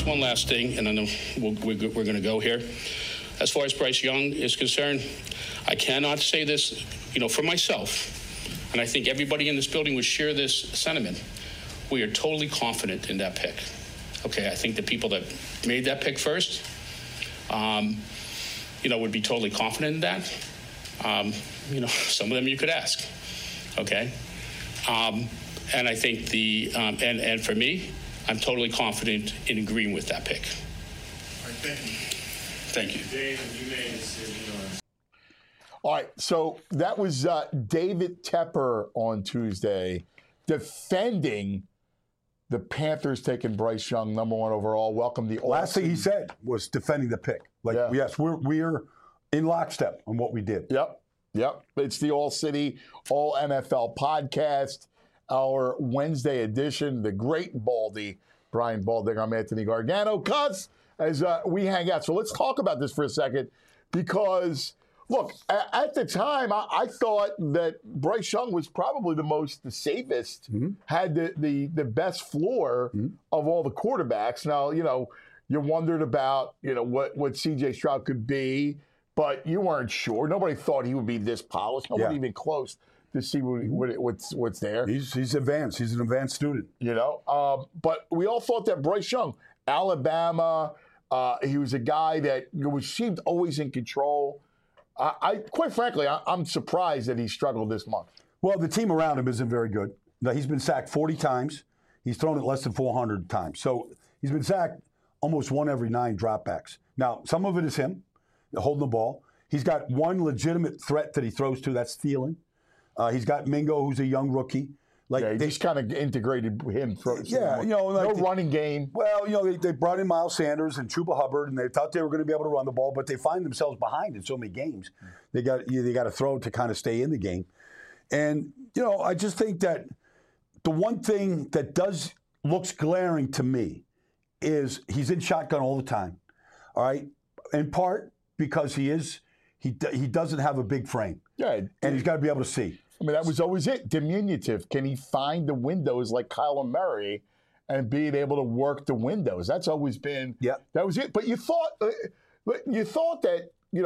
just one last thing, and then we're going to go here. As far as Bryce Young is concerned, I cannot say this, for myself, and I think everybody in this building would share this sentiment. We are totally confident in that pick. Okay, I think the people that made that pick first, would be totally confident in that. Some of them you could ask. Okay, and I think and for me, I'm totally confident in agreeing with that pick. All right, thank you. Thank you. Dave, you made a decision on. All right, so that was David Tepper on Tuesday defending the Panthers taking Bryce Young, number 1 overall. Welcome the last thing he said was defending the pick. Yes, we're in lockstep on what we did. Yep. It's the All City, All NFL podcast, our Wednesday edition. The great Baldy, Brian Baldinger. I'm Anthony Gargano. Cuz, as we hang out. So let's talk about this for a second because, look, at the time, I thought that Bryce Young was probably the safest, had the best floor of all the quarterbacks. Now, you wondered about, what C.J. Stroud could be, but you weren't sure. Nobody thought he would be this polished. Nobody even close to see what's there. He's advanced. He's an advanced student. But we all thought that Bryce Young, Alabama, he was a guy that seemed always in control. Quite frankly, I'm surprised that he struggled this month. Well, the team around him isn't very good. Now, he's been sacked 40 times. He's thrown it less than 400 times. So he's been sacked almost 1 every 9 dropbacks. Now, some of it is him holding the ball. He's got one legitimate threat that he throws to, that's stealing. He's got Mingo, who's a young rookie. They just kind of integrated him. No running game. Well, they brought in Miles Sanders and Chuba Hubbard, and they thought they were going to be able to run the ball, but they find themselves behind in so many games. They got to throw to kind of stay in the game. And, I just think that the one thing that looks glaring to me is he's in shotgun all the time, all right? In part because he doesn't have a big frame. Yeah. And he's got to be able to see. I mean, that was always it. Diminutive. Can he find the windows like Kyler Murray and being able to work the windows? That's always been. Yeah. That was it. But you thought that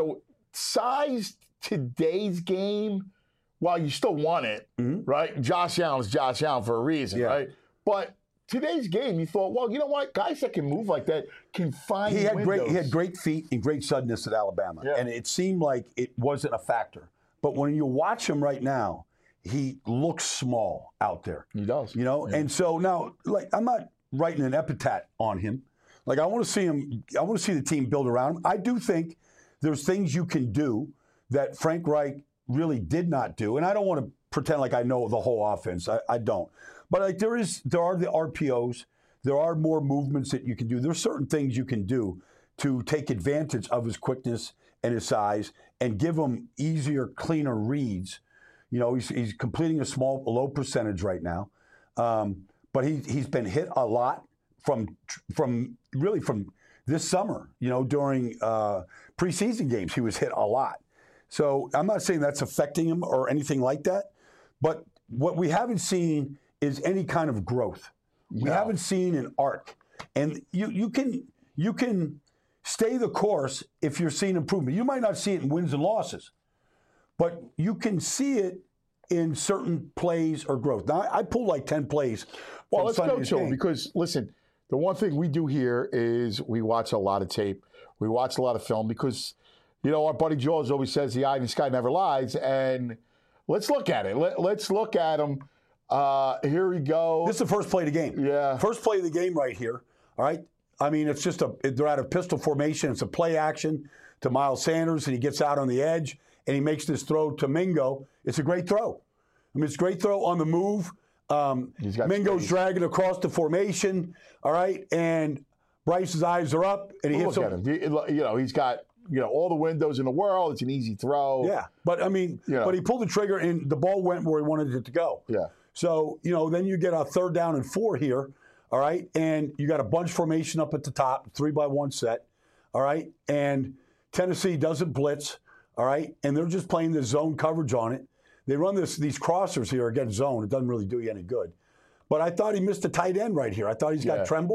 size today's game, while you still want it, right? Josh Allen's Josh Allen for a reason, right? But today's game, you thought, well, you know what? Guys that can move like that can find windows. He had great feet and great suddenness at Alabama, and it seemed like it wasn't a factor. But when you watch him right now, he looks small out there. He does. And so now, I'm not writing an epithet on him. I want to see him. I want to see the team build around him. I do think there's things you can do that Frank Reich really did not do. And I don't want to pretend like I know the whole offense. I don't. But there are the RPOs. There are more movements that you can do. There's certain things you can do to take advantage of his quickness and his size and give him easier, cleaner reads. He's completing a low percentage right now. But he's been hit a lot from this summer. During preseason games, he was hit a lot. So I'm not saying that's affecting him or anything like that. But what we haven't seen is any kind of growth. We haven't seen an arc. And you can stay the course if you're seeing improvement. You might not see it in wins and losses, but you can see it in certain plays or growth. Now, I pulled like 10 plays. Well, let's go to it because, listen, the one thing we do here is we watch a lot of tape. We watch a lot of film because, our buddy Jaws always says the eye in the sky never lies. And let's look at it. Let's look at him. Here we go. This is the first play of the game. Yeah. First play of the game right here. All right. I mean, it's just they're out of pistol formation. It's a play action to Miles Sanders, and he gets out on the edge, and he makes this throw to Mingo. It's a great throw. I mean, it's a great throw on the move. Mingo's dragging across the formation, all right, and Bryce's eyes are up, and he hits him. He's got all the windows in the world. It's an easy throw. Yeah, but I mean, but he pulled the trigger, and the ball went where he wanted it to go. Yeah. So, then you get a 3rd down and 4 here. All right, and you got a bunch formation up at the top, 3-by-1 set, all right, and Tennessee doesn't blitz, all right, and they're just playing the zone coverage on it. They run these crossers here against zone. It doesn't really do you any good. But I thought he missed a tight end right here. I thought he's got Tremble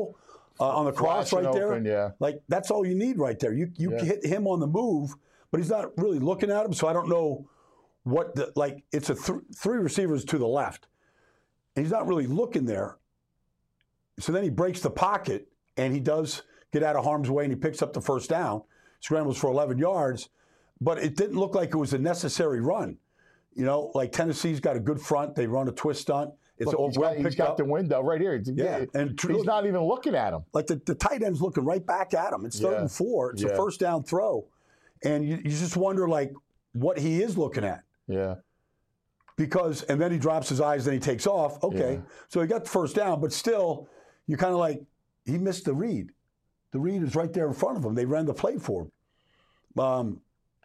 on the cross Flashing right there. open, yeah. Like, that's all you need right there. You hit him on the move, but he's not really looking at him, so I don't know what the, like, it's a three receivers to the left. And he's not really looking there. So then he breaks the pocket, and he does get out of harm's way, and he picks up the first down, scrambles for 11 yards, but it didn't look like it was a necessary run. You know, like Tennessee's got a good front. They run a twist stunt. It's Look, he's got the window right here. Yeah, and he's not even looking at him. Like the tight end's looking right back at him. It's 3rd and 4. It's a first down throw. And you just wonder, like, what he is looking at. Yeah. Because, and then he drops his eyes, then he takes off. Okay. Yeah. So he got the first down, but still, you kind of like, he missed the read. The read is right there in front of him. They ran the play for him.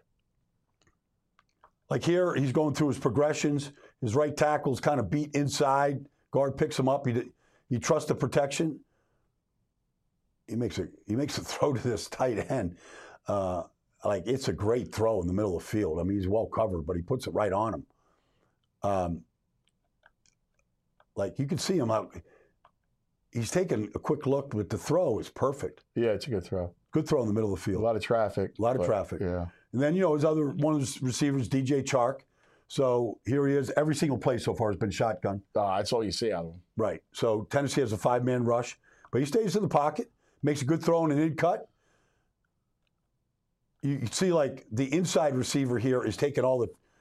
Like here, he's going through his progressions. His right tackle's kind of beat inside. Guard picks him up. He trusts the protection. He makes a throw to this tight end. Like, it's a great throw in the middle of the field. I mean, he's well covered, but he puts it right on him. Like, you can see him out. He's taking a quick look, but the throw is perfect. Yeah, it's a good throw. Good throw in the middle of the field. A lot of traffic. Yeah. And then, his other one of his receivers, DJ Chark. So here he is. Every single play so far has been shotgun. That's all you see out of him. Right. So Tennessee has a 5-man rush, but he stays in the pocket, makes a good throw and an in cut. You can see, like, the inside receiver here is taking all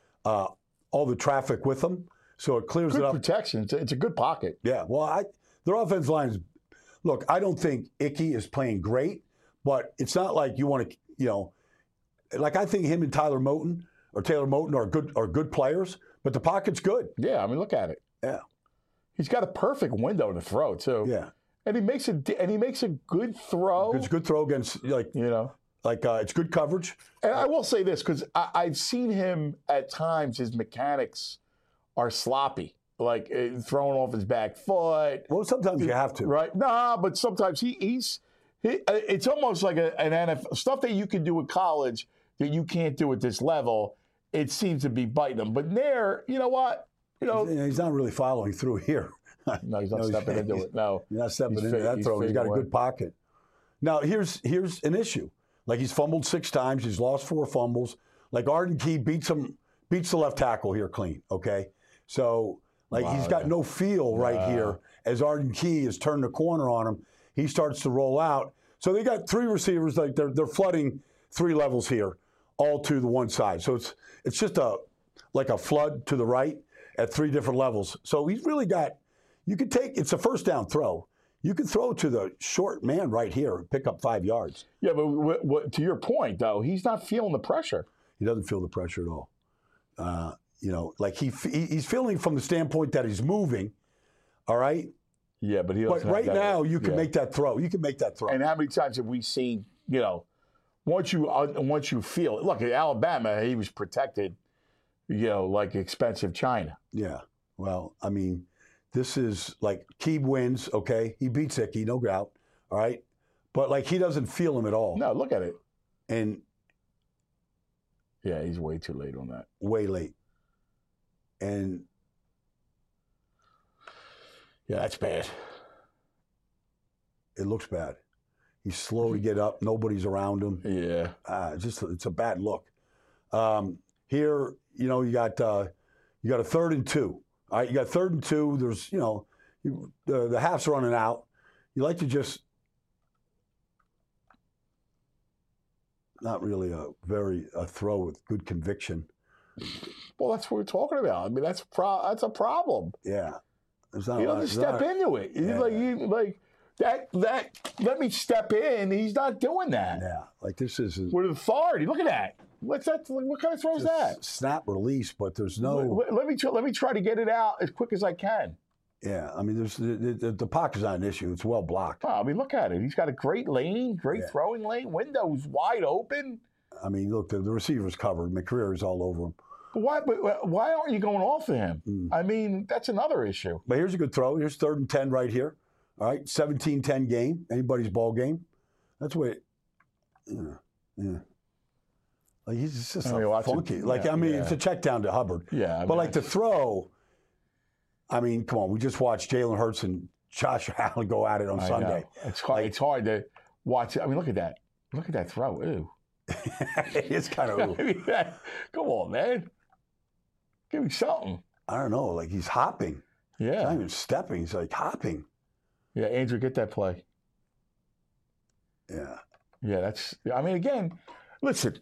the traffic with him, so it clears Good it up. protection. It's a good pocket. Yeah. Well, their offensive line is. Look, I don't think Ickey is playing great, but it's not like you want to, like, I think him and Taylor Moton are good players, but the pocket's good. Yeah, I mean, look at it. Yeah. He's got a perfect window to throw too. Yeah. And he makes a good throw. It's a good throw against, it's good coverage. And I will say this, because I've seen him at times, his mechanics are sloppy, like throwing off his back foot. Well, sometimes you have to. Right? Nah, but sometimes it's almost like an NFL, stuff that you can do in college that you can't do at this level. It seems to be biting him. But there, you know what? He's not really following through here. No, he's not stepping into it. No. He's not stepping into that throw. He's got a good pocket. Now, here's an issue. Like, he's fumbled 6 times. He's lost 4 fumbles. Like, Arden Key beats the left tackle here clean, okay? So, like, he's got no feel right here. As Arden Key has turned the corner on him, he starts to roll out. So they got 3 receivers. Like, they're flooding 3 levels here, all to the one side. So it's just like a flood to the right at 3 different levels. So he's really got, it's a first down throw. You can throw to the short man right here and pick up 5 yards. Yeah, but to your point, though, he's not feeling the pressure. He doesn't feel the pressure at all. Like he's feeling from the standpoint that he's moving, all right? Yeah, but right now you can make that throw. You can make that throw. And how many times have we seen, once you feel it. Look, at Alabama, he was protected, like expensive china. Yeah. Well, I mean, this is like Keeb wins, okay? He beats Ickey, no doubt, all right? But, like, he doesn't feel him at all. No, look at it. And yeah, he's way too late on that. Way late. And yeah, that's bad. It looks bad. He's slow to get up. Nobody's around him. Yeah. It's a bad look. Here, you got a 3rd and 2. All right, you got 3rd and 2. There's, the half's running out. You like to just not really a throw with good conviction. Well, that's what we're talking about. I mean, that's a problem. Yeah. He doesn't step into it. Yeah. Let me step in. He's not doing that. Yeah. Like, this is with authority. Look at that. What's that? What kind of throw is that? Snap release, but there's no. Let me try to get it out as quick as I can. Yeah, I mean, there's the pocket's not an issue. It's well blocked. Oh, I mean, look at it. He's got a great lane, throwing lane. Window's wide open. I mean, look, the receiver's covered. McCreary's all over him. But why aren't you going off of him? I mean, that's another issue. But here's a good throw. Here's 3rd and 10 right here. All right, 17-10 game. Anybody's ball game. That's what. Yeah. Like, he's just funky. It's a check down to Hubbard. Yeah. But like the throw, I mean, come on. We just watched Jalen Hurts and Josh Allen go at it on I Sunday. know. It's hard. It's hard to watch it. I mean, look at that. Look at that throw. Ew. It's kind of. I mean, come on, man. Give me something. I don't know. Like he's hopping. He's not Yeah. even stepping. He's like hopping. Yeah, Andrew, get that play. Yeah. Yeah, that's. I mean, again, listen.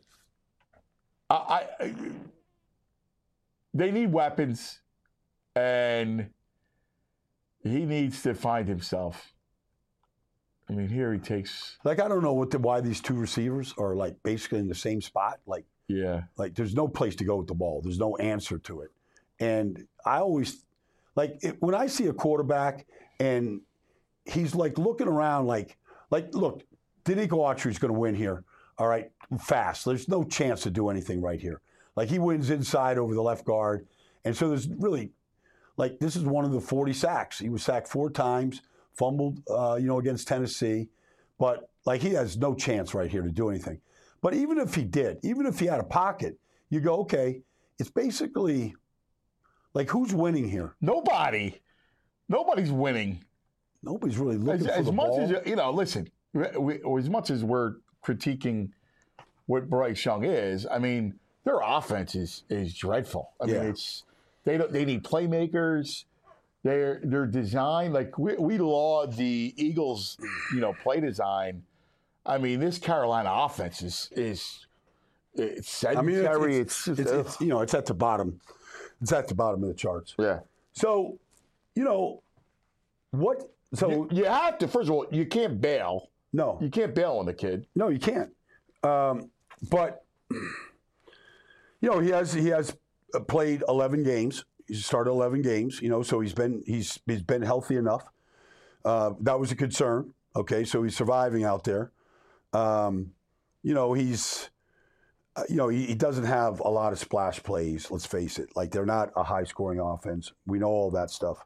They need weapons, and he needs to find himself. I mean, here he takes. Like I don't know why these two receivers are like basically in the same spot. Like there's no place to go with the ball. There's no answer to it. And I always when I see a quarterback and he's like looking around like look, Danico Autry's going to win here. All right, fast. There's no chance to do anything right here. Like he wins inside over the left guard. And so there's really this is one of the 40 sacks. He was sacked 4 times, fumbled against Tennessee, but he has no chance right here to do anything. But even if he did, even if he had a pocket, you go, okay, it's basically who's winning here? Nobody. Nobody's winning. Nobody's really looking for the much ball. as listen, as much as we're critiquing what Bryce Young is, I mean, their offense is dreadful. I mean, they need playmakers. They're designed we laud the Eagles, play design. I mean, this Carolina offense is sedentary. It's at the bottom. It's at the bottom of the charts. Yeah. So, what? So you have to. First of all, you can't bail. No, you can't bail on the kid. No, you can't. But he has played 11 games. He's started 11 games. So he's been healthy enough. That was a concern. Okay, so he's surviving out there. He doesn't have a lot of splash plays. Let's face it. They're not a high scoring offense. We know all that stuff.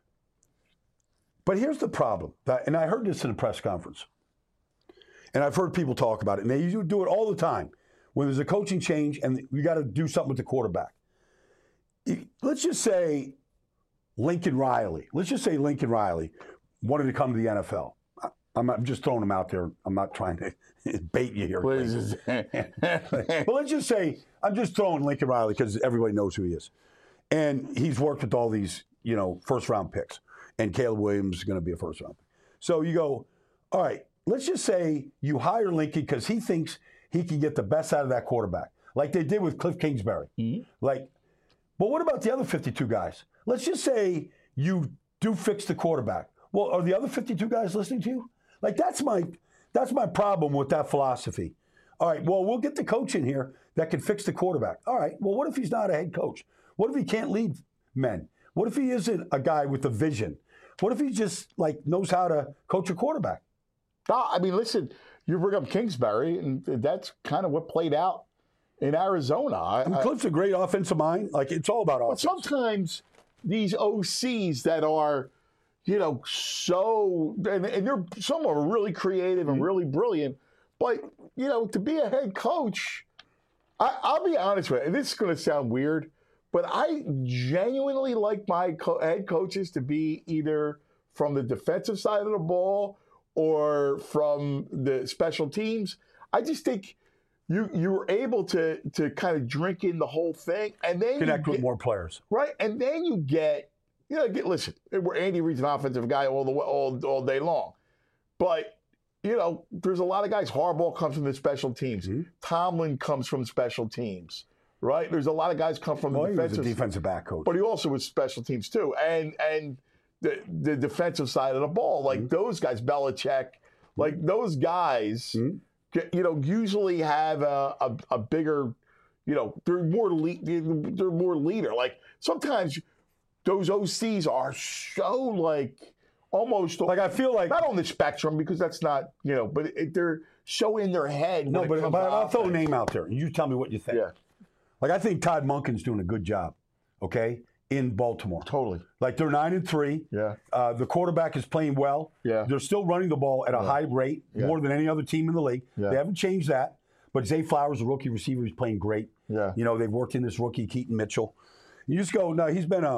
But here's the problem. And I heard this in a press conference. And I've heard people talk about it. And they do it all the time. When there's a coaching change and you got to do something with the quarterback. Let's just say Lincoln Riley wanted to come to the NFL. I'm just throwing him out there. I'm not trying to bait you here. Please. But let's just say I'm just throwing Lincoln Riley because everybody knows who he is. And he's worked with all these, first-round picks. And Caleb Williams is going to be a first-round pick. So you go, all right, let's just say you hire Lincoln because he thinks he can get the best out of that quarterback, like they did with Cliff Kingsbury. Mm-hmm. But what about the other 52 guys? Let's just say you do fix the quarterback. Well, are the other 52 guys listening to you? That's my problem with that philosophy. All right, well, we'll get the coach in here that can fix the quarterback. All right, well, what if he's not a head coach? What if he can't lead men? What if he isn't a guy with a vision? What if he just knows how to coach a quarterback? I mean, listen, you bring up Kingsbury, and that's kind of what played out in Arizona. Cliff's a great offensive mind. It's all about offense. But sometimes these OCs that are, and some are really creative and really brilliant, but, to be a head coach, I'll be honest with you, and this is going to sound weird, but I genuinely like my head coaches to be either from the defensive side of the ball or from the special teams. I just think you were able to kind of drink in the whole thing, and then connect with more players, right? And then you get listen. Andy Reid's an offensive guy all day long, but there's a lot of guys. Harbaugh comes from the special teams. Mm-hmm. Tomlin comes from special teams. Right? There's a lot of guys come from the defensive. He was a defensive back coach. But he also was special teams too. And the defensive side of the ball, those guys, Belichick, those guys, usually have a bigger, they're more leader. Sometimes those OCs are so almost I feel not on the spectrum because that's not, but they're so in their head. No, but I'll throw a name out there and you tell me what you think. Yeah. I think Todd Monken's doing a good job, okay, in Baltimore. Totally. They're 9-3. Yeah. The quarterback is playing well. Yeah. They're still running the ball at a high rate, more than any other team in the league. Yeah. They haven't changed that. But Zay Flowers, a rookie receiver, is playing great. Yeah. They've worked in this rookie, Keaton Mitchell. You just go, no, he's been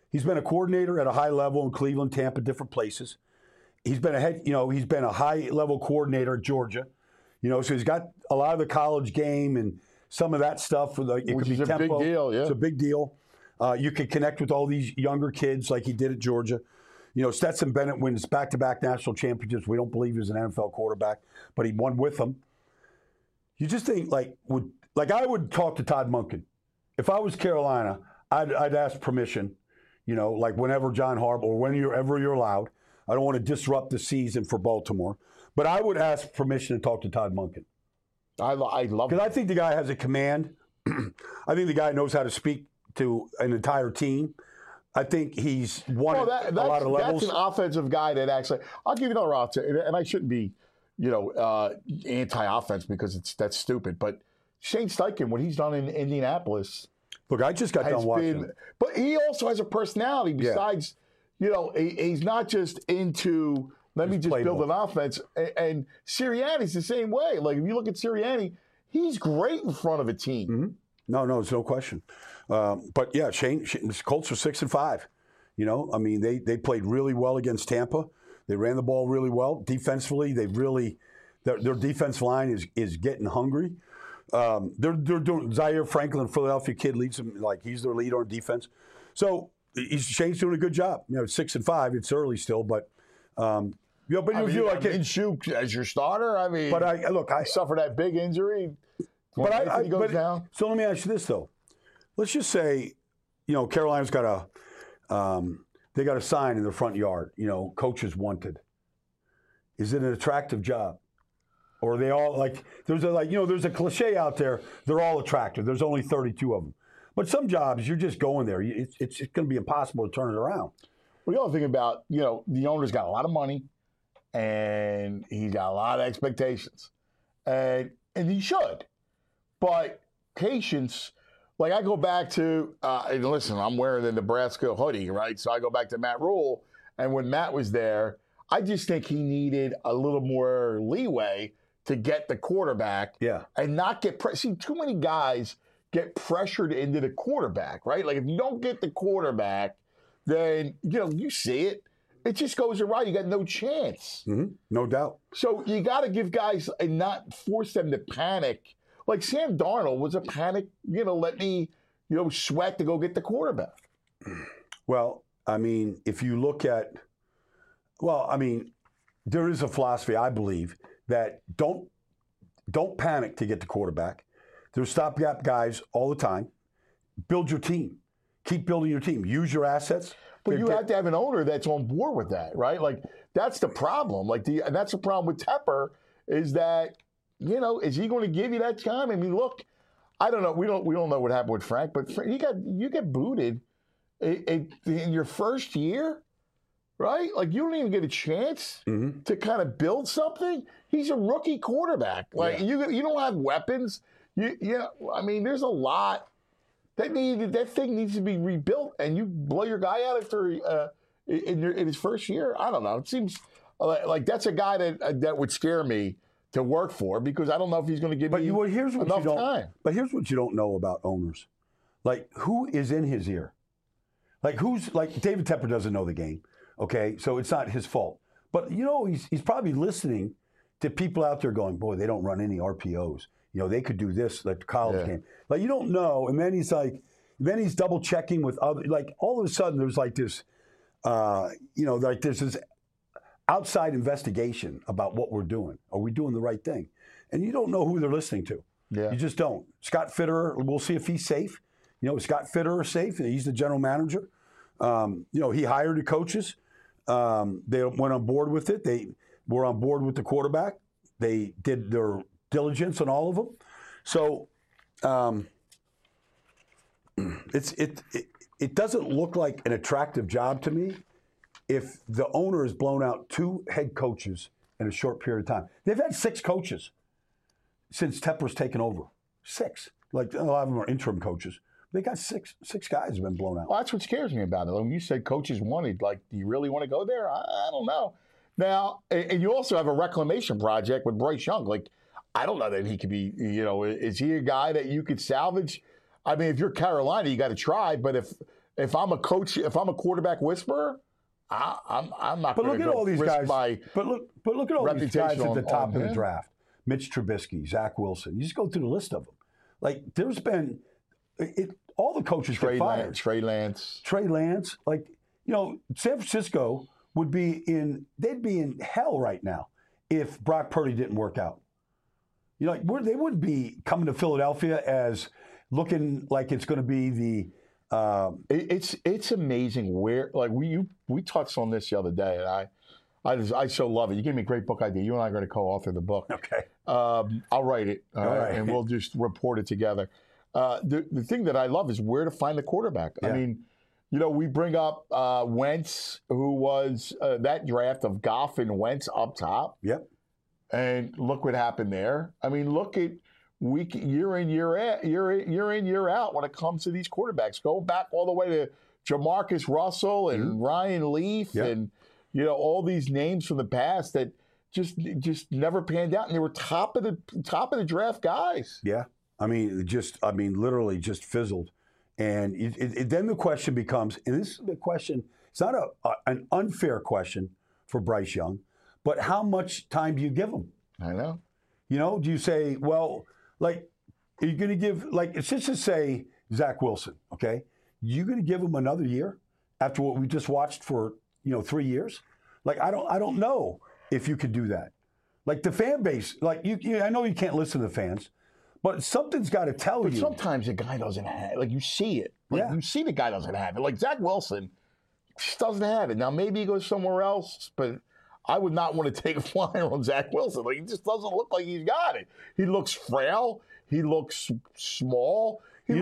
He's been a coordinator at a high level in Cleveland, Tampa, different places. He's been he's been a high-level coordinator at Georgia. So he's got a lot of the college game and some of that stuff. It could be tempo. Big deal, yeah. It's a big deal. You can connect with all these younger kids like he did at Georgia. Stetson Bennett wins back-to-back national championships. We don't believe he was an NFL quarterback, but he won with them. You just think, I would talk to Todd Monken. If I was Carolina, I'd ask permission, whenever John Harbaugh or whenever you're allowed. I don't want to disrupt the season for Baltimore, but I would ask permission to talk to Todd Monken. I love it. Because I think the guy has a command. I think the guy knows how to speak to an entire team. I think he's won a lot of levels. That's an offensive guy that actually – I'll give you another option, and I shouldn't be, anti-offense because that's stupid. But Shane Steichen, what he's done in Indianapolis – Look, I just got done watching. But he also has a personality besides – he's not just into let me just build an offense. And Sirianni's the same way. Like if you look at Sirianni, he's great in front of a team. Mm-hmm. No, it's no question. But yeah, Shane Colts are 6-5. They played really well against Tampa. They ran the ball really well defensively. Their defense line is getting hungry. They're doing Zaire Franklin, Philadelphia kid, leads them like he's their leader on defense. So. Shane's doing a good job. 6-5. It's early still, but but you feel like Minshew as your starter. But I suffered that big injury. But he goes down. So let me ask you this though. Let's just say, Carolina's got they got a sign in their front yard. Coaches wanted. Is it an attractive job, or are they all like? There's a cliche out there. They're all attractive. There's only 32 of them. But some jobs, you're just going there. It's going to be impossible to turn it around. Well, the other thing about, the owner's got a lot of money, and he's got a lot of expectations. And he should. But patience, like I go back to, and listen, I'm wearing the Nebraska hoodie, right? So I go back to Matt Rule. And when Matt was there, I just think he needed a little more leeway to get the quarterback and not get see, too many guys get pressured into the quarterback, right? Like if you don't get the quarterback, then you see it. It just goes awry. You got no chance. Mm-hmm. No doubt. So you got to give guys and not force them to panic. Like Sam Darnold was a panic. Let me sweat to go get the quarterback. Well, if you look at, there is a philosophy I believe that don't panic to get the quarterback. There's stopgap guys all the time. Build your team. Keep building your team. Use your assets. But you have to have an owner that's on board with that, right? Like that's the problem. And that's the problem with Tepper is that is he going to give you that time? Look, I don't know. We don't know what happened with Frank, but you get booted in your first year, right? Like you don't even get a chance to kind of build something. He's a rookie quarterback. Like you don't have weapons. There's a lot that thing needs to be rebuilt, and you blow your guy out after in his first year. I don't know. It seems like that's a guy that would scare me to work for because I don't know if he's going to give me enough time. But here's what you don't know about owners: like who is in his ear, like David Tepper doesn't know the game. Okay, so it's not his fault. But he's probably listening to people out there going, "Boy, they don't run any RPOs." They could do this like the college game. Like you don't know, and then he's double checking with other. Like all of a sudden, there's like this, there's this outside investigation about what we're doing. Are we doing the right thing? And you don't know who they're listening to. Yeah. You just don't. Scott Fitterer, we'll see if he's safe. Is Scott Fitterer safe? He's the general manager. He hired the coaches. They went on board with it. They were on board with the quarterback. They did their diligence on all of them. So it doesn't look like an attractive job to me if the owner has blown out 2 head coaches in a short period of time. They've had 6 coaches since Tepper's taken over. 6. Like a lot of them are interim coaches. They got six guys have been blown out. Well, that's what scares me about it. When you said coaches wanted, like, do you really want to go there? I don't know. Now, and you also have a reclamation project with Bryce Young. Like, I don't know that he could be, is he a guy that you could salvage? If you're Carolina, you got to try. But if I'm a coach, if I'm a quarterback whisperer, I'm not. But look at all these guys. My But look at all these guys reputation at the top on of the him. draft: Mitch Trubisky, Zach Wilson. You just go through the list of them. Like there's been all the coaches get fired. Trey Lance. Trey Lance, like San Francisco would be they'd be in hell right now if Brock Purdy didn't work out. They wouldn't be coming to Philadelphia as looking like it's going to be the. It's amazing where we touched on this the other day, and I so love it. You gave me a great book idea. You and I are going to co-author the book. Okay. I'll write it, All right. and we'll just report it together. The thing that I love is where to find the quarterback. Yeah. I mean, we bring up Wentz, who was that draft of Goff and Wentz up top. Yep. And look what happened there. I mean, look at year in, year out when it comes to these quarterbacks. Go back all the way to Jamarcus Russell and Ryan Leaf and all these names from the past that just never panned out, and they were top of the draft guys. Yeah. I mean, literally just fizzled. And then the question becomes, and this is the question, it's not an unfair question for Bryce Young, but how much time do you give him? I know. Do you say, well, are you going to give, it's just to say Zach Wilson, okay? You going to give him another year after what we just watched for, 3 years? I don't know if you could do that. The fan base, I know you can't listen to the fans, but something's got to tell you. But sometimes a guy doesn't have it. You see it. You see the guy doesn't have it. Zach Wilson just doesn't have it. Now, maybe he goes somewhere else, but I would not want to take a flyer on Zach Wilson. He just doesn't look like he's got it. He looks frail. He looks small. Bryce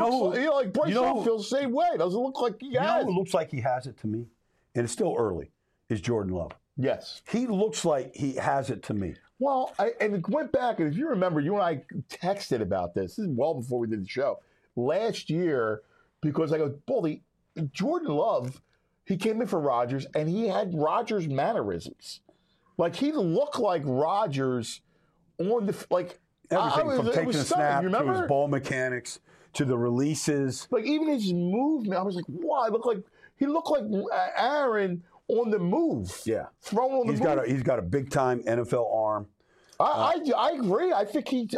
Young feels the same way. Doesn't look like he has it. Who looks like he has it to me, and it's still early, is Jordan Love. Yes. He looks like he has it to me. Well, and it went back, and if you remember, you and I texted about this. This is well before we did the show. Last year, because I go, Baldy, Jordan Love, he came in for Rodgers, and he had Rodgers mannerisms. He looked like Rodgers on the Everything from taking a snap to his ball mechanics to the releases. Even his movement, I was like, wow, he looked like Aaron on the move. Yeah. Thrown on the move. He's got a big time NFL arm. I agree. I think he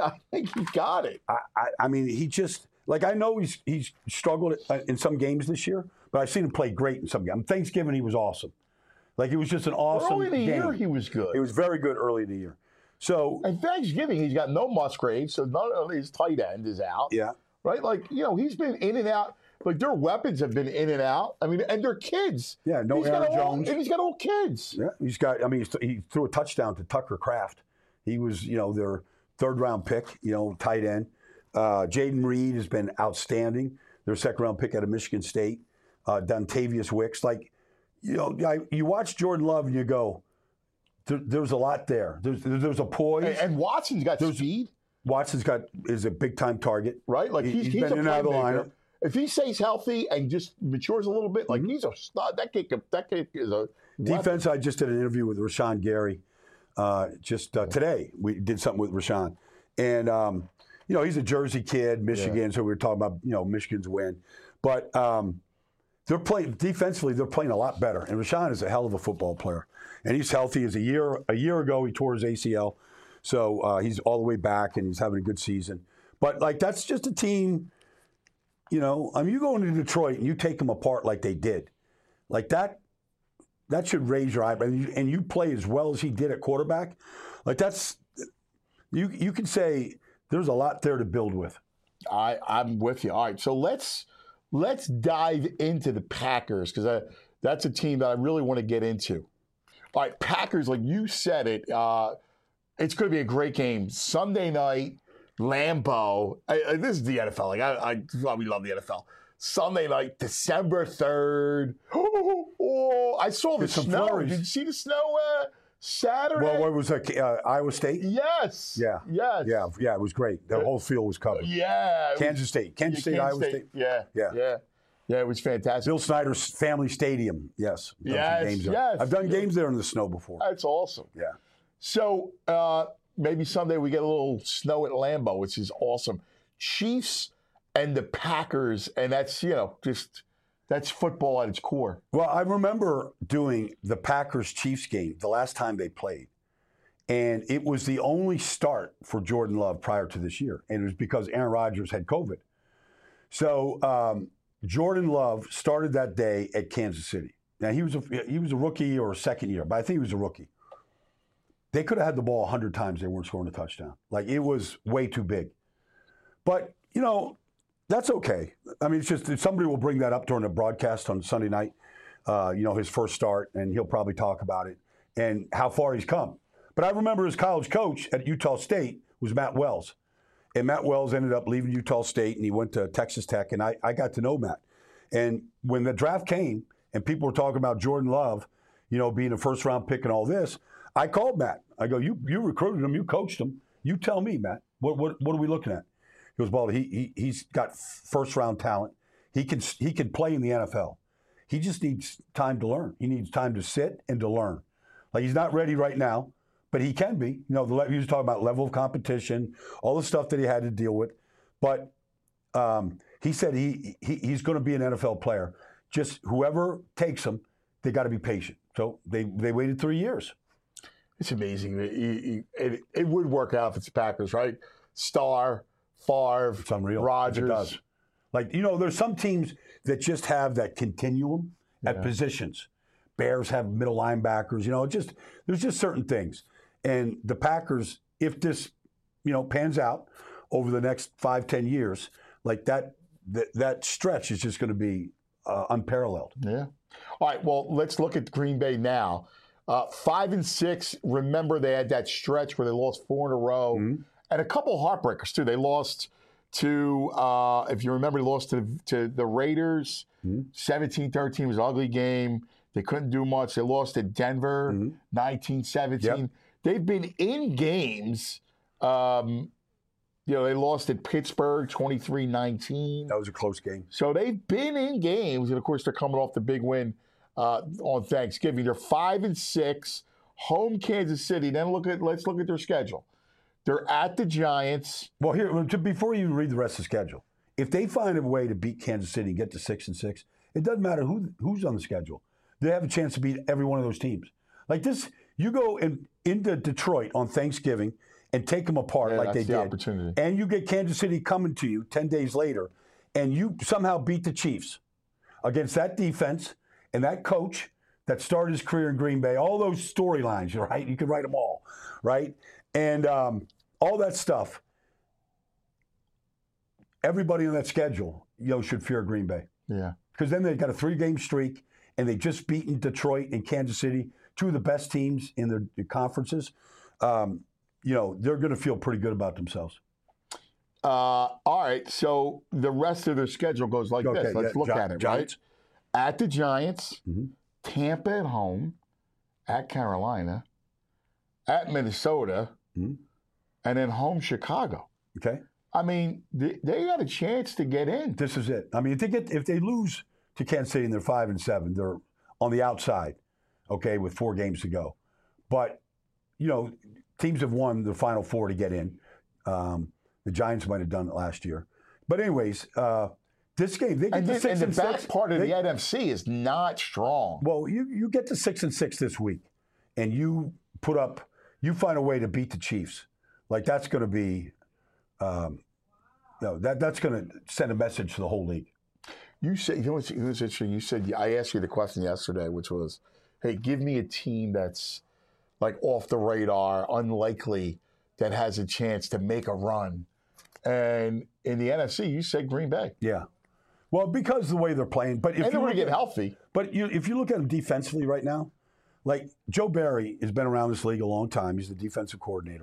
got it. I mean, he just I know he's struggled in some games this year, but I've seen him play great in some games. Thanksgiving, he was awesome. It was just an awesome early in the game. year, he was good. He was very good early in the year. So and Thanksgiving, he's got no Musgrave, so none of his tight end is out. Yeah. Right? He's been in and out. Their weapons have been in and out. I mean, and they're kids. Yeah, no Aaron Jones. And he's got all kids. Yeah, he threw a touchdown to Tucker Kraft. He was, their third-round pick, tight end. Jaden Reed has been outstanding. Their second-round pick out of Michigan State. Dontavius Wicks. You watch Jordan Love and you go, there's a lot there. There's a poise. And Watson's got speed. Watson's is a big-time target. Right? He's been a in and out of the playmaker. lineup. If he stays healthy and just matures a little bit, he's a stud. That kid is a defense. I just did an interview with Rashawn Gary today. We did something with Rashawn. And, he's a Jersey kid, Michigan, so we were talking about, Michigan's win. But they're playing defensively, they're playing a lot better. And Rashawn is a hell of a football player. And he's healthy. A year ago, he tore his ACL. So he's all the way back, and he's having a good season. But, that's just a team, you go into Detroit and you take them apart like they did. That should raise your eyebrow. And you play as well as he did at quarterback. You can say there's a lot there to build with. I'm with you. All right, so let's dive into the Packers because that's a team that I really want to get into. All right, Packers, like you said it, it's going to be a great game. Sunday night, Lambeau. This is the NFL. We love the NFL. Sunday night, December 3rd. Oh, I saw the snow. Flurries. Did you see the snow Saturday? Well, what was that? Iowa State? Yes. Yeah. Yes. Yeah, it was great. The whole field was covered. Yeah. Kansas State, Iowa State. Yeah. Yeah, it was fantastic. Bill Snyder's Family Stadium. Yes. I've done games there in the snow before. That's awesome. Yeah. So maybe someday we get a little snow at Lambeau, which is awesome. Chiefs and the Packers, and that's, just That's football at its core. Well, I remember doing the Packers-Chiefs game the last time they played. And it was the only start for Jordan Love prior to this year. And it was because Aaron Rodgers had COVID. So Jordan Love started that day at Kansas City. Now, he was a rookie or a second year, but I think he was a rookie. They could have had the ball 100 times. They weren't scoring a touchdown. Like, it was way too big. But, that's okay. I mean, it's just somebody will bring that up during the broadcast on Sunday night, his first start, and he'll probably talk about it and how far he's come. But I remember his college coach at Utah State was Matt Wells. And Matt Wells ended up leaving Utah State, and he went to Texas Tech, and I got to know Matt. And when the draft came and people were talking about Jordan Love, being a first-round pick and all this, I called Matt. I go, you recruited him, you coached him. You tell me, Matt, what are we looking at? He goes, well, he's got first-round talent. He can play in the NFL. He just needs time to learn. He needs time to sit and to learn. Like, he's not ready right now, but he can be. He was talking about level of competition, all the stuff that he had to deal with. But he said he's going to be an NFL player. Just whoever takes him, they got to be patient. So they waited 3 years. It's amazing. It would work out if it's the Packers, right? Starr, Favre, It's unreal. Rodgers. It does. Like, there's some teams that just have that continuum at positions. Bears have middle linebackers. There's just certain things. And the Packers, if this, pans out over the next 5-10 years, like that stretch is just going to be unparalleled. Yeah. All right. Well, let's look at Green Bay now. 5-6. Remember, they had that stretch where they lost 4 in a row, and a couple heartbreakers too. They lost to, if you remember, they lost to the Raiders. 17-13 was an ugly game. They couldn't do much. They lost to Denver, 19-17. Yep. They've been in games. They lost at Pittsburgh, 23-19. That was a close game. So they've been in games, and of course they're coming off the big win on Thanksgiving. They're 5-6, home Kansas City. Then let's look at their schedule. They're at the Giants. Well, here, before you read the rest of the schedule, if they find a way to beat Kansas City and get to 6-6, it doesn't matter who's on the schedule. They have a chance to beat every one of those teams. Like this, you go into Detroit on Thanksgiving and take them apart like they did. Opportunity. And you get Kansas City coming to you 10 days later, and you somehow beat the Chiefs against that defense and that coach that started his career in Green Bay. All those storylines, right? You can write them all, right? And all that stuff. Everybody on that schedule, should fear Green Bay. Yeah. Because then they've got a 3-game streak, and they've just beaten Detroit and Kansas City, two of the best teams in their conferences. They're going to feel pretty good about themselves. All right. So the rest of their schedule goes like this. Let's look at it, Giants. right? At the Giants, Tampa at home, at Carolina, at Minnesota, and then home Chicago. Okay. I mean, they got a chance to get in. This is it. I mean, if they lose to Kansas City and they're 5-7, they're on the outside, okay, with 4 games to go. But, teams have won the Final Four to get in. The Giants might have done it last year. But anyways, this game, they get to 6-6. And the back part of the NFC is not strong. Well, you get to 6-6 this week, and you find a way to beat the Chiefs. Like, that's going to be, that's going to send a message to the whole league. You said, what's interesting? You said, I asked you the question yesterday, which was, hey, give me a team that's like off the radar, unlikely, that has a chance to make a run. And in the NFC, you said Green Bay. Yeah. Well, because of the way they're playing. But if and they're going to get healthy. But if you look at them defensively right now, like Joe Barry has been around this league a long time. He's the defensive coordinator.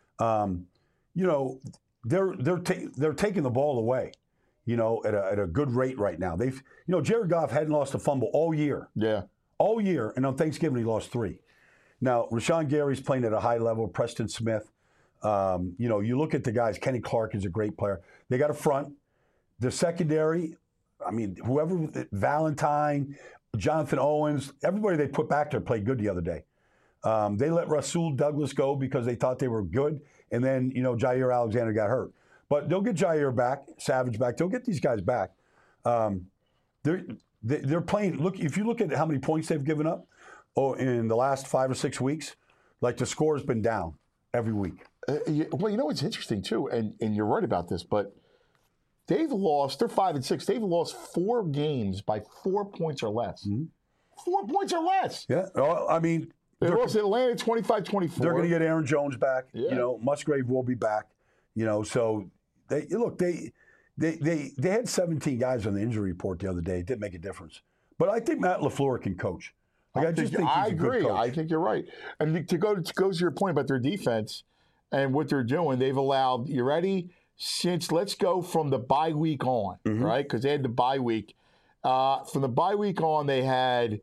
They're taking the ball away, at a good rate right now. Jared Goff hadn't lost a fumble all year. Yeah. All year, and on Thanksgiving he lost 3. Now, Rashawn Gary's playing at a high level. Preston Smith. You look at the guys. Kenny Clark is a great player. They got a front. The secondary, I mean, whoever, Valentine, Jonathan Owens, everybody they put back there played good the other day. They let Rasul Douglas go because they thought they were good, and then, Jair Alexander got hurt. But they'll get Jair back, Savage back. They'll get these guys back. they're playing. Look, if you look at how many points they've given up, in the last 5 or 6 weeks, like the score has been down every week. Well, you know what's interesting too, and you're right about this, but they've lost. They're 5-6. They've lost 4 games by 4 points or less. 4 points or less. Yeah, I mean, they lost Atlanta 25-24. They're going to get Aaron Jones back. Yeah. You know, Musgrave will be back. You know, so they had 17 guys on the injury report the other day. It didn't make a difference. But I think Matt LaFleur can coach. Like, I just think he's a good coach. I think you're right. And to go to your point about their defense and what they're doing, they've allowed, you ready? Let's go from the bye week on, right? Because they had the bye week. From the bye week on, they had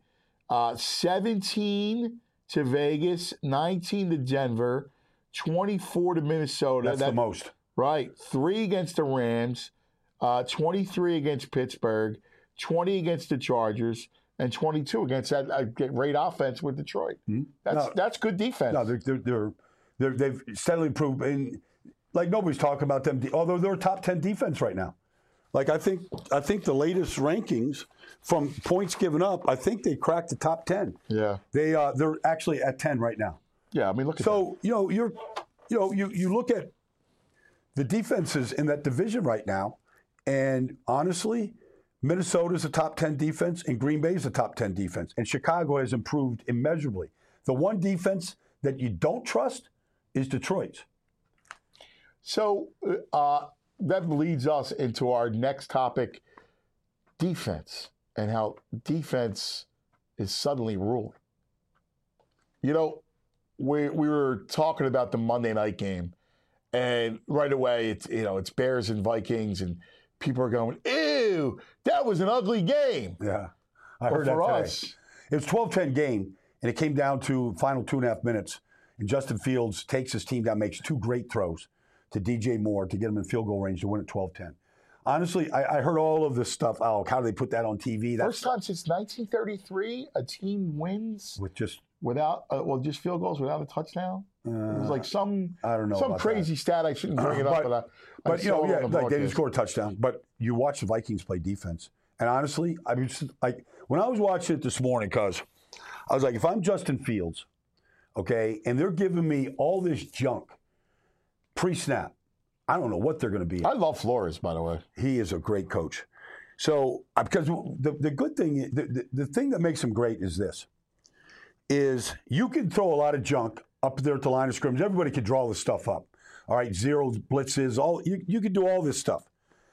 17 to Vegas, 19 to Denver, 24 to Minnesota. That's the most. Right. 3 against the Rams, 23 against Pittsburgh, 20 against the Chargers, and 22 against that great offense with Detroit. That's good defense. No, they've steadily improved. And like, nobody's talking about them, although they're a top 10 defense right now. Like, I think the latest rankings from points given up, I think they cracked the top 10. Yeah. They're actually at 10 right now. Yeah, I mean, look at that. So, you look at the defenses in that division right now, and honestly, Minnesota's a top 10 defense, and Green Bay's a top 10 defense, and Chicago has improved immeasurably. The one defense that you don't trust is Detroit's. So that leads us into our next topic, defense, and how defense is suddenly ruling. You know, we were talking about the Monday night game, and right away it's Bears and Vikings, and people are going, "Ew, that was an ugly game." Yeah, I heard that today. Us, it was a 12-10 game, and it came down to final 2.5 minutes, and Justin Fields takes his team down, makes 2 great throws to DJ Moore to get him in field goal range to win at 12-10. Honestly, I heard all of this stuff. Oh, how do they put that on TV? First time since 1933 a team wins with just without just field goals without a touchdown. It was like some crazy stat. I shouldn't bring it up, but like they didn't score a touchdown. But you watch the Vikings play defense, and honestly, I mean, like when I was watching it this morning, because I was like, if I'm Justin Fields, okay, and they're giving me all this junk pre-snap, I don't know what they're going to be. I love Flores, by the way. He is a great coach. So, because the good thing, the thing that makes him great is this, is you can throw a lot of junk up there at the line of scrimmage. Everybody can draw this stuff up. All right, zeros, blitzes, you can do all this stuff.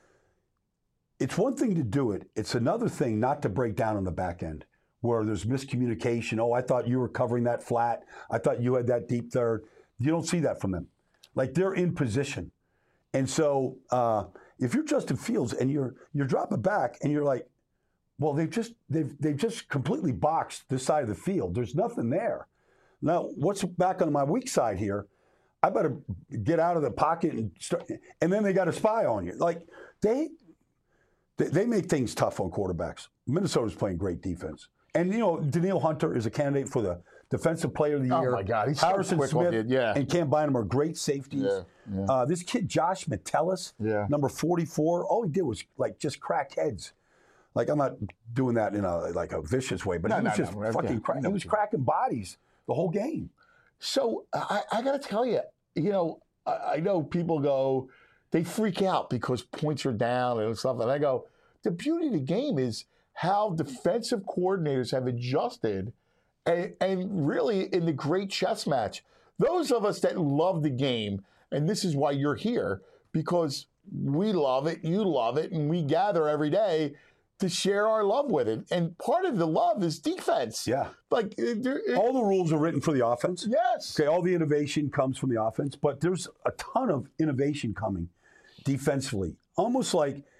It's one thing to do it. It's another thing not to break down on the back end where there's miscommunication. Oh, I thought you were covering that flat. I thought you had that deep third. You don't see that from them. Like, they're in position. And so if you're Justin Fields and you're dropping back and you're like, well, they've just completely boxed this side of the field. There's nothing there. Now, what's back on my weak side here? I better get out of the pocket and start. And then they got a spy on you. Like, they make things tough on quarterbacks. Minnesota's playing great defense. And, Danielle Hunter is a candidate for the Defensive Player of the Year. Oh, my God. He's Harrison so quick Smith on it, and Cam Bynum are great safeties. Yeah. This kid, Josh Metellus, number 44, all he did was, like, just crack heads. Like, I'm not doing that in a vicious way, but he was just fucking cracking. He was cracking bodies the whole game. So I got to tell you, I know people go, they freak out because points are down and stuff. And I go, the beauty of the game is how defensive coordinators have adjusted and really in the great chess match. Those of us that love the game, and this is why you're here, because we love it, you love it, and we gather every day to share our love with it. And part of the love is defense. Yeah. Like all the rules are written for the offense. Yes. Okay, all the innovation comes from the offense, but there's a ton of innovation coming defensively. Almost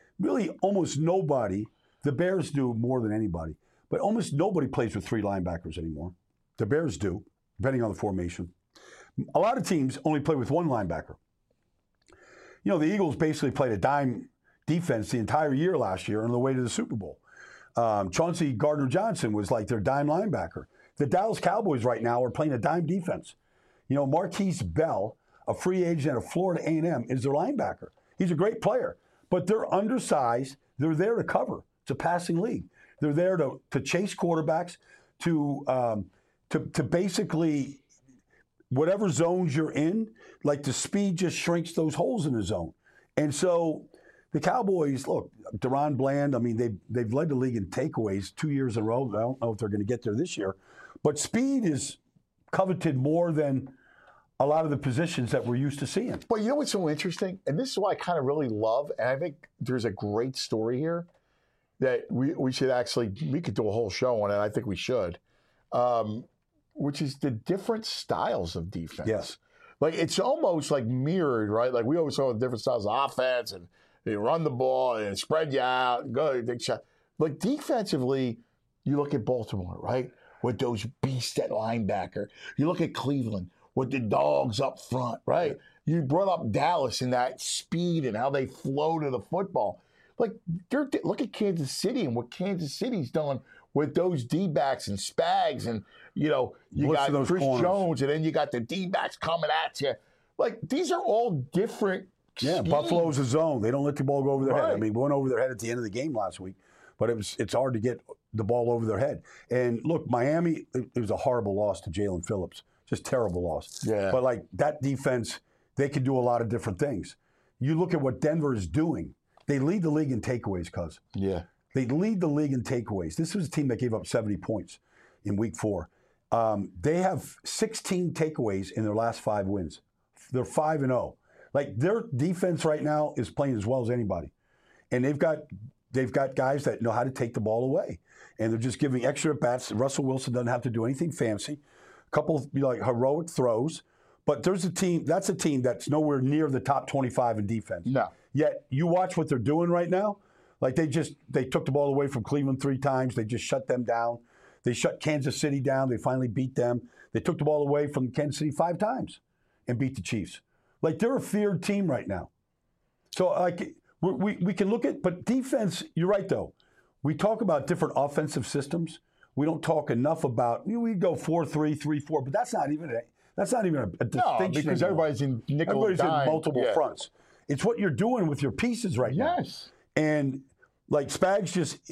nobody, the Bears do more than anybody, but almost nobody plays with 3 linebackers anymore. The Bears do, depending on the formation. A lot of teams only play with 1 linebacker. The Eagles basically played a dime defense the entire year last year on the way to the Super Bowl. Chauncey Gardner-Johnson was like their dime linebacker. The Dallas Cowboys right now are playing a dime defense. Marquise Bell, a free agent out of Florida A&M, is their linebacker. He's a great player, but they're undersized. They're there to cover. It's a passing league. They're there to chase quarterbacks, to basically whatever zones you're in, like the speed just shrinks those holes in the zone. And so the Cowboys, look, Deron Bland, I mean, they've led the league in takeaways 2 years in a row. I don't know if they're going to get there this year. But speed is coveted more than a lot of the positions that we're used to seeing. But you know what's so interesting? And this is what I kind of really love, and I think there's a great story here that we should actually, we could do a whole show on it. I think we should. Which is the different styles of defense. Yes. Like, it's almost like mirrored, right? Like, we always saw the different styles of offense, and they run the ball and spread you out and go big shot. But defensively, you look at Baltimore, right? With those beasts at linebacker. You look at Cleveland with the dogs up front, right? You brought up Dallas and that speed and how they flow to the football. Like, look at Kansas City and what Kansas City's done with those D-backs and Spags and, you know, you got Chris Jones and then you got the D-backs coming at you. Like, these are all different schemes. Buffalo's a zone. They don't let the ball go over their head. Right. I mean, we went over their head at the end of the game last week, but it's hard to get the ball over their head. And look, Miami, it was a horrible loss to Jalen Phillips. Just terrible loss. Yeah. But, like, that defense, they can do a lot of different things. You look at what Denver is doing. They lead the league in takeaways, cuz. Yeah. They lead the league in takeaways. This was a team that gave up 70 points in week 4. They have 16 takeaways in their last 5 wins. They're 5-0. Like, their defense right now is playing as well as anybody. And they've got guys that know how to take the ball away. And they're just giving extra at-bats. Russell Wilson doesn't have to do anything fancy. A couple of heroic throws. But that's a team that's nowhere near the top 25 in defense. No. Yet you watch what they're doing right now. Like, they took the ball away from Cleveland 3 times. They just shut them down. They shut Kansas City down. They finally beat them. They took the ball away from Kansas City 5 times and beat the Chiefs. Like, they're a feared team right now. So, like, we can look at, but defense, you're right, though. We talk about different offensive systems. We don't talk enough about, we go 4-3, 3-4, but that's not even a distinction. No, because everybody's in nickel Everybody's dime. in multiple fronts. It's what you're doing with your pieces right now. Yes. And, like, Spags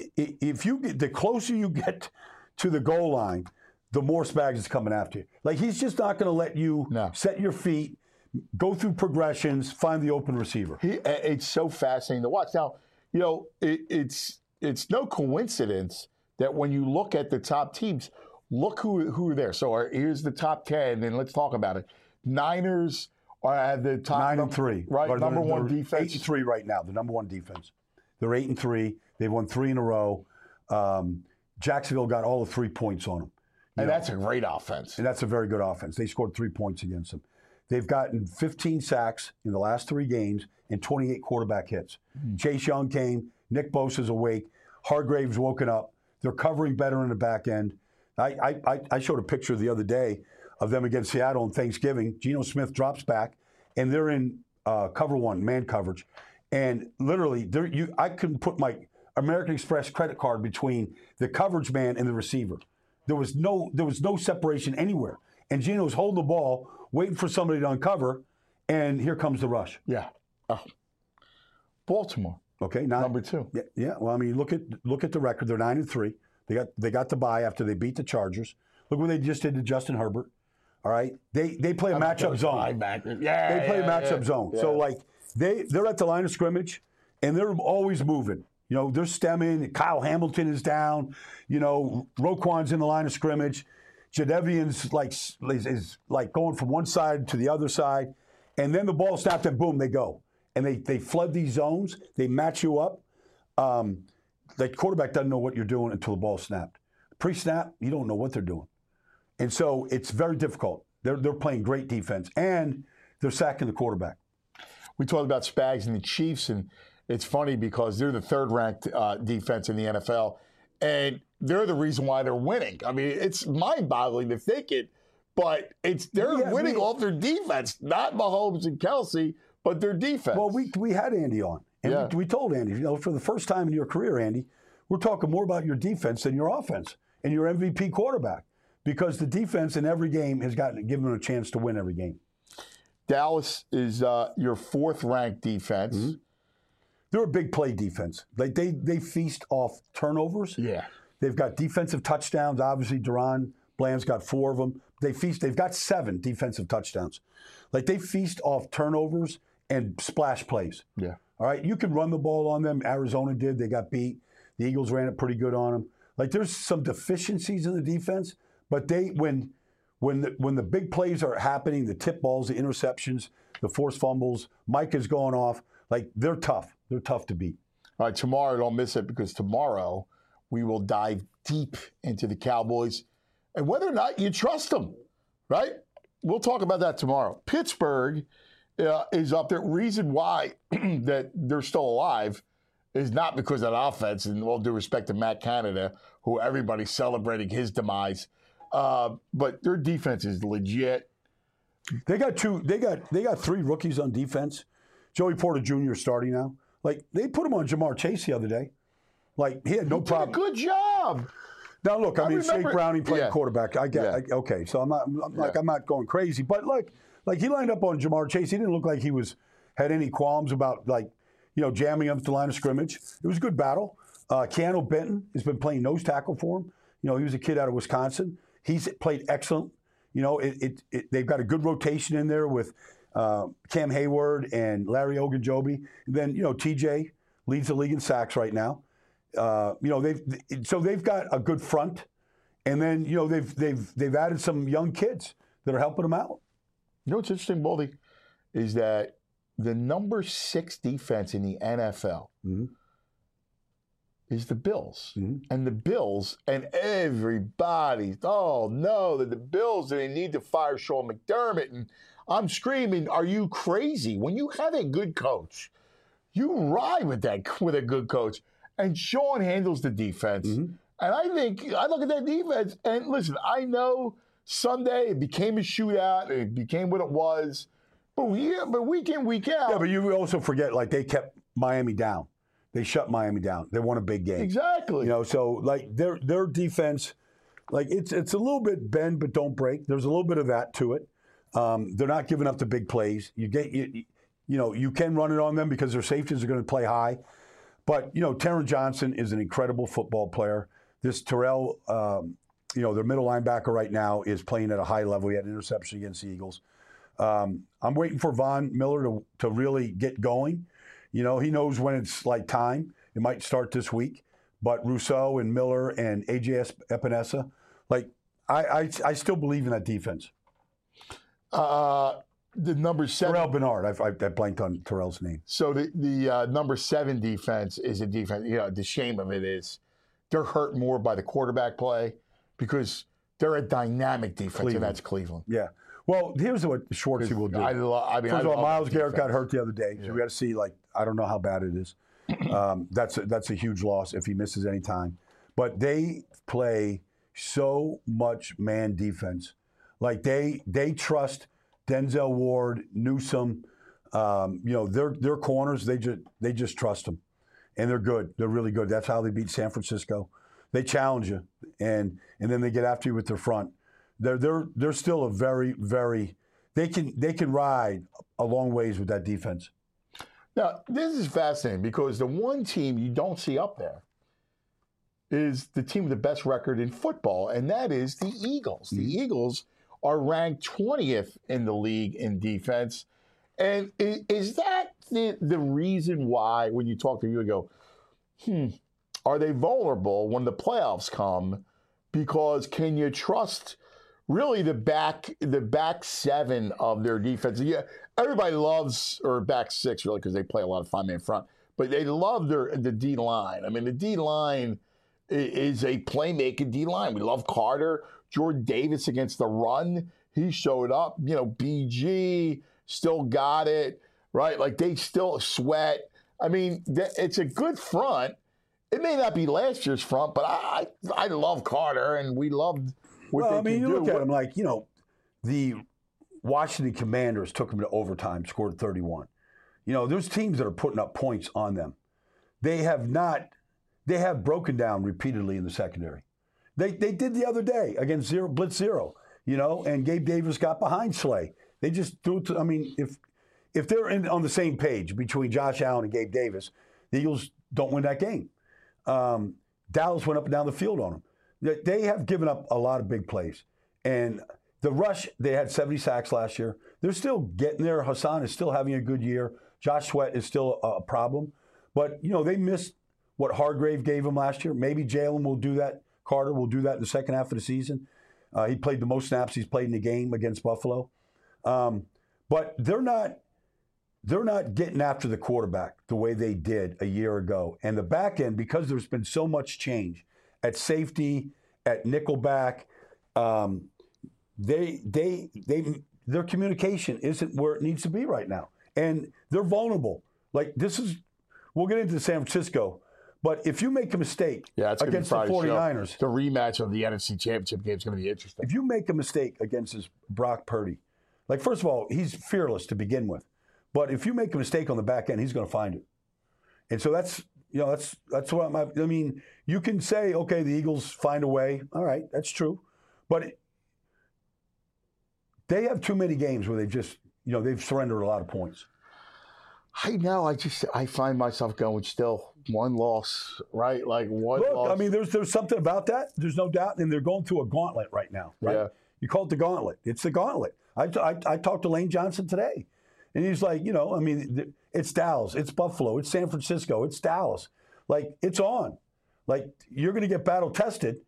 the closer you get to the goal line, the more Spags is coming after you. Like, he's just not going to let you set your feet, go through progressions, find the open receiver. It's so fascinating to watch. Now, you know, it's no coincidence that when you look at the top teams, look who are there. So here's the top 10, and let's talk about it. Niners are at the top 9-3, right? They're number one defense. 8-3 right now. The number one defense. They're 8-3. They've won 3 in a row. Jacksonville got all the 3 points on them. And that's a great offense. And that's a very good offense. They scored 3 points against them. They've gotten 15 sacks in the last 3 games and 28 quarterback hits. Chase Young came. Nick Bosa's awake. Hargrave's woken up. They're covering better in the back end. I showed a picture the other day of them against Seattle on Thanksgiving. Geno Smith drops back, and they're in cover 1, man coverage. And literally, I couldn't put my American Express credit card between the coverage man and the receiver. There was no separation anywhere. And Geno's holding the ball, waiting for somebody to uncover, and here comes the rush. Yeah. Oh. Baltimore. Okay, number 2. Yeah. Well, I mean, look at the record. They're 9-3. They got the bye after they beat the Chargers. Look what they just did to Justin Herbert. All right, they play a matchup zone. Yeah, they play a matchup zone. Yeah. So, like, they're at the line of scrimmage, and they're always moving. You know, they're stemming. Kyle Hamilton is down. You know, Roquan's in the line of scrimmage. Jadeveon's is going from one side to the other side, and then the ball snapped and boom, they go. And they flood these zones. They match you up. The quarterback doesn't know what you're doing until the ball snapped. Pre-snap, you don't know what they're doing. And so it's very difficult. They're playing great defense, and they're sacking the quarterback. We talked about Spags and the Chiefs, and it's funny because they're the 3rd-ranked defense in the NFL, and they're the reason why they're winning. I mean, it's mind-boggling to think it, but they're winning off their defense, not Mahomes and Kelsey, but their defense. Well, we had Andy on, and we told Andy, you know, for the first time in your career, Andy, we're talking more about your defense than your offense and your MVP quarterback, because the defense in every game has given them a chance to win every game. Dallas is your 4th-ranked defense. they're a big play defense. Like they feast off turnovers. Yeah. They've got defensive touchdowns. Obviously, Deron Bland's got 4 of them. They've got 7 defensive touchdowns. Like they feast off turnovers and splash plays. Yeah. All right, you can run the ball on them. Arizona did. They got beat. The Eagles ran it pretty good on them. Like there's some deficiencies in the defense, but when the big plays are happening, the tip balls, the interceptions, the forced fumbles, Micah's going off. Like they're tough. They're tough to beat. All right, tomorrow, don't miss it because tomorrow we will dive deep into the Cowboys and whether or not you trust them, right? We'll talk about that tomorrow. Pittsburgh is up there. Reason why that they're still alive is not because of the offense, and all due respect to Matt Canada, who everybody's celebrating his demise, but their defense is legit. They got 3 rookies on defense. Joey Porter Jr. is starting now. Like they put him on Jamar Chase the other day. Like he had no problem. Good job. Now look, I mean, remember, Shake Browning played quarterback. I get, Yeah. okay, so I'm not going crazy, but like he lined up on Jamar Chase. He didn't look like he had any qualms about jamming up the line of scrimmage. It was a good battle. Keanu Benton has been playing nose tackle for him. He was a kid out of Wisconsin. He's played excellent. They've got a good rotation in there with Cam Hayward and Larry Ogunjobi. And then TJ leads the league in sacks right now. They've got a good front, and then they've added some young kids that are helping them out. You know what's interesting, Baldy, is that the number 6 defense in the NFL is the Bills. And the Bills, and everybody, oh no, the Bills, they need to fire Sean McDermott. And I'm screaming, are you crazy? When you have a good coach, you ride with a good coach. And Sean handles the defense. And I look at that defense, and listen, I know Sunday it became a shootout, it became what it was. But week in, week out. Yeah, but you also forget, like, they kept Miami down. They shut Miami down. They won a big game. Exactly. So like their defense, like it's a little bit bend but don't break. There's a little bit of that to it. They're not giving up the big plays. You can run it on them because their safeties are going to play high. But Taron Johnson is an incredible football player. This Terrell, their middle linebacker right now is playing at a high level. He had an interception against the Eagles. I'm waiting for Von Miller to really get going. He knows when it's like time. It might start this week. But Rousseau and Miller and AJ Epinesa, like I still believe in that defense. The number 7. Terrell Bernard. I blanked on Terrell's name. So the number 7 defense is a defense. The shame of it is they're hurt more by the quarterback play because they're a dynamic defense, and that's Cleveland. Yeah. Well, here's what Schwartzy will do. First of all, Myles Garrett got hurt the other day, so we got to see. Like, I don't know how bad it is. That's a huge loss if he misses any time. But they play so much man defense. Like they trust Denzel Ward, Newsome. Their corners. They just trust them, and they're good. They're really good. That's how they beat San Francisco. They challenge you, and then they get after you with their front. They're still a very, very they can ride a long ways with that defense. Now, this is fascinating because the one team you don't see up there is the team with the best record in football, and that is the Eagles. The Eagles are ranked 20th in the league in defense. And is that the reason why when you talk to you, you go, are they vulnerable when the playoffs come? Because can you trust really the back 7 of their defense? Yeah, everybody loves, or back 6 really, because they play a lot of 5-man front, but they love the D line. I mean, the D line is a playmaking D line. We love Carter, Jordan Davis against the run. He showed up. BG still got it, right? Like they still Sweat. I mean, it's a good front. It may not be last year's front, but I love Carter, and we loved what they can do. You look at them like, the Washington Commanders took them to overtime, scored 31. There's teams that are putting up points on them. They have broken down repeatedly in the secondary. They did the other day against Blitz Zero, and Gabe Davis got behind Slay. They just threw it to, if they're on the same page between Josh Allen and Gabe Davis, The Eagles don't win that game. Dallas went up and down the field on them. They have given up a lot of big plays. And the rush, they had 70 sacks last year. They're still getting there. Hassan is still having a good year. Josh Sweat is still a problem. But, they missed what Hargrave gave them last year. Maybe Jalen will do that. Carter will do that in the second half of the season. He played the most snaps he's played in the game against Buffalo. But they're not getting after the quarterback the way they did a year ago. And the back end, because there's been so much change at safety, at nickelback, their communication isn't where it needs to be right now. And they're vulnerable. We'll get into San Francisco, but if you make a mistake against the 49ers. The rematch of the NFC Championship game is going to be interesting. If you make a mistake against this Brock Purdy, first of all, he's fearless to begin with. But if you make a mistake on the back end, he's going to find it. And so that's what you can say, okay, the Eagles find a way. All right, that's true. But they have too many games where they've surrendered a lot of points. I know. I find myself going still one loss, right? One loss. There's something about that. There's no doubt. And they're going through a gauntlet right now, right? Yeah. You call it the gauntlet. It's the gauntlet. I talked to Lane Johnson today. And he's like, it's Dallas, it's Buffalo, it's San Francisco, it's Dallas. It's on. You're going to get battle tested.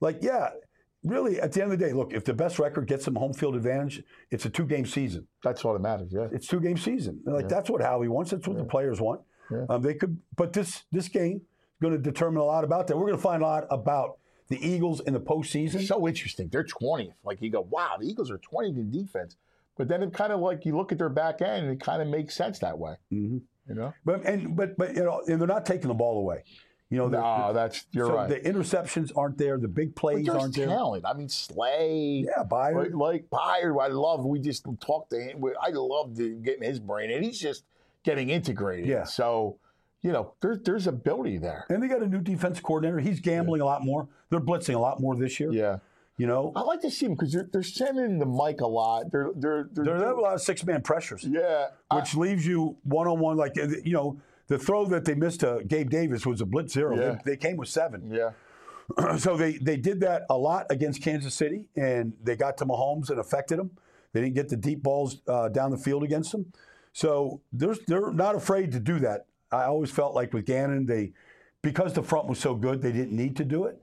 Really, at the end of the day, look, if the best record gets them home field advantage, it's a 2-game season. That's what it matters, yeah. It's 2-game season. That's what Howie wants. That's what the players want. Yeah. But this game is going to determine a lot about that. We're going to find a lot about the Eagles in the postseason. It's so interesting. They're 20th. You go, wow, the Eagles are 20th in defense. But then it kind of you look at their back end, and it kind of makes sense that way. Mm-hmm. But and they're not taking the ball away. You're right. The interceptions aren't there. The big plays aren't there. Talent. Slay. Yeah, Byard. Byard. I love. We just talked to him. I love getting his brain, and he's just getting integrated. Yeah. So, there's ability there. And they got a new defense coordinator. He's gambling a lot more. They're blitzing a lot more this year. Yeah. I like to see them because they're sending the mic a lot. They have a lot of 6-man pressures. Yeah, which leaves you one-on-one. The throw that they missed to Gabe Davis was a blitz 0. Yeah. They came with 7. Yeah. So they did that a lot against Kansas City, and they got to Mahomes and affected him. They didn't get the deep balls down the field against them. So they're not afraid to do that. I always felt like with Gannon, because the front was so good, they didn't need to do it.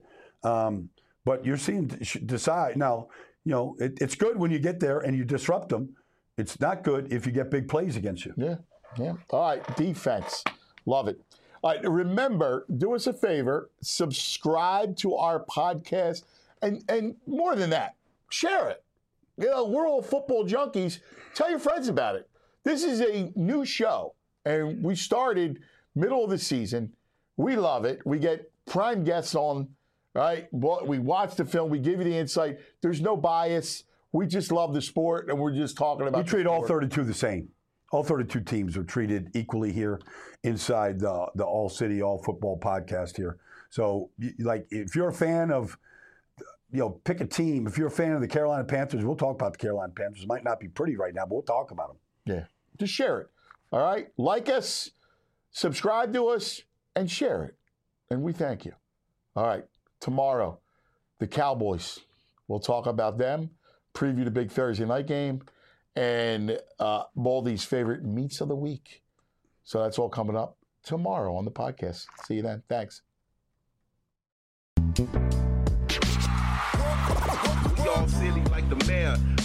But you're seeing decide now. It's good when you get there and you disrupt them. It's not good if you get big plays against you. Yeah. All right, defense, love it. All right, remember, do us a favor, subscribe to our podcast, and more than that, share it. We're all football junkies. Tell your friends about it. This is a new show, and we started middle of the season. We love it. We get prime guests on. Right? We watch the film. We give you the insight. There's no bias. We just love the sport, and we're just talking about. We treat all 32 the same. All 32 teams are treated equally here inside the All City All Football podcast here. So, if you're a fan of, pick a team. If you're a fan of the Carolina Panthers, we'll talk about the Carolina Panthers. It might not be pretty right now, but we'll talk about them. Yeah. Just share it. All right? Like us, subscribe to us, and share it. And we thank you. All right. Tomorrow, the Cowboys. We'll talk about them, preview the big Thursday night game, and Baldy's favorite meats of the week. So that's all coming up tomorrow on the podcast. See you then. Thanks. We all silly like the mayor.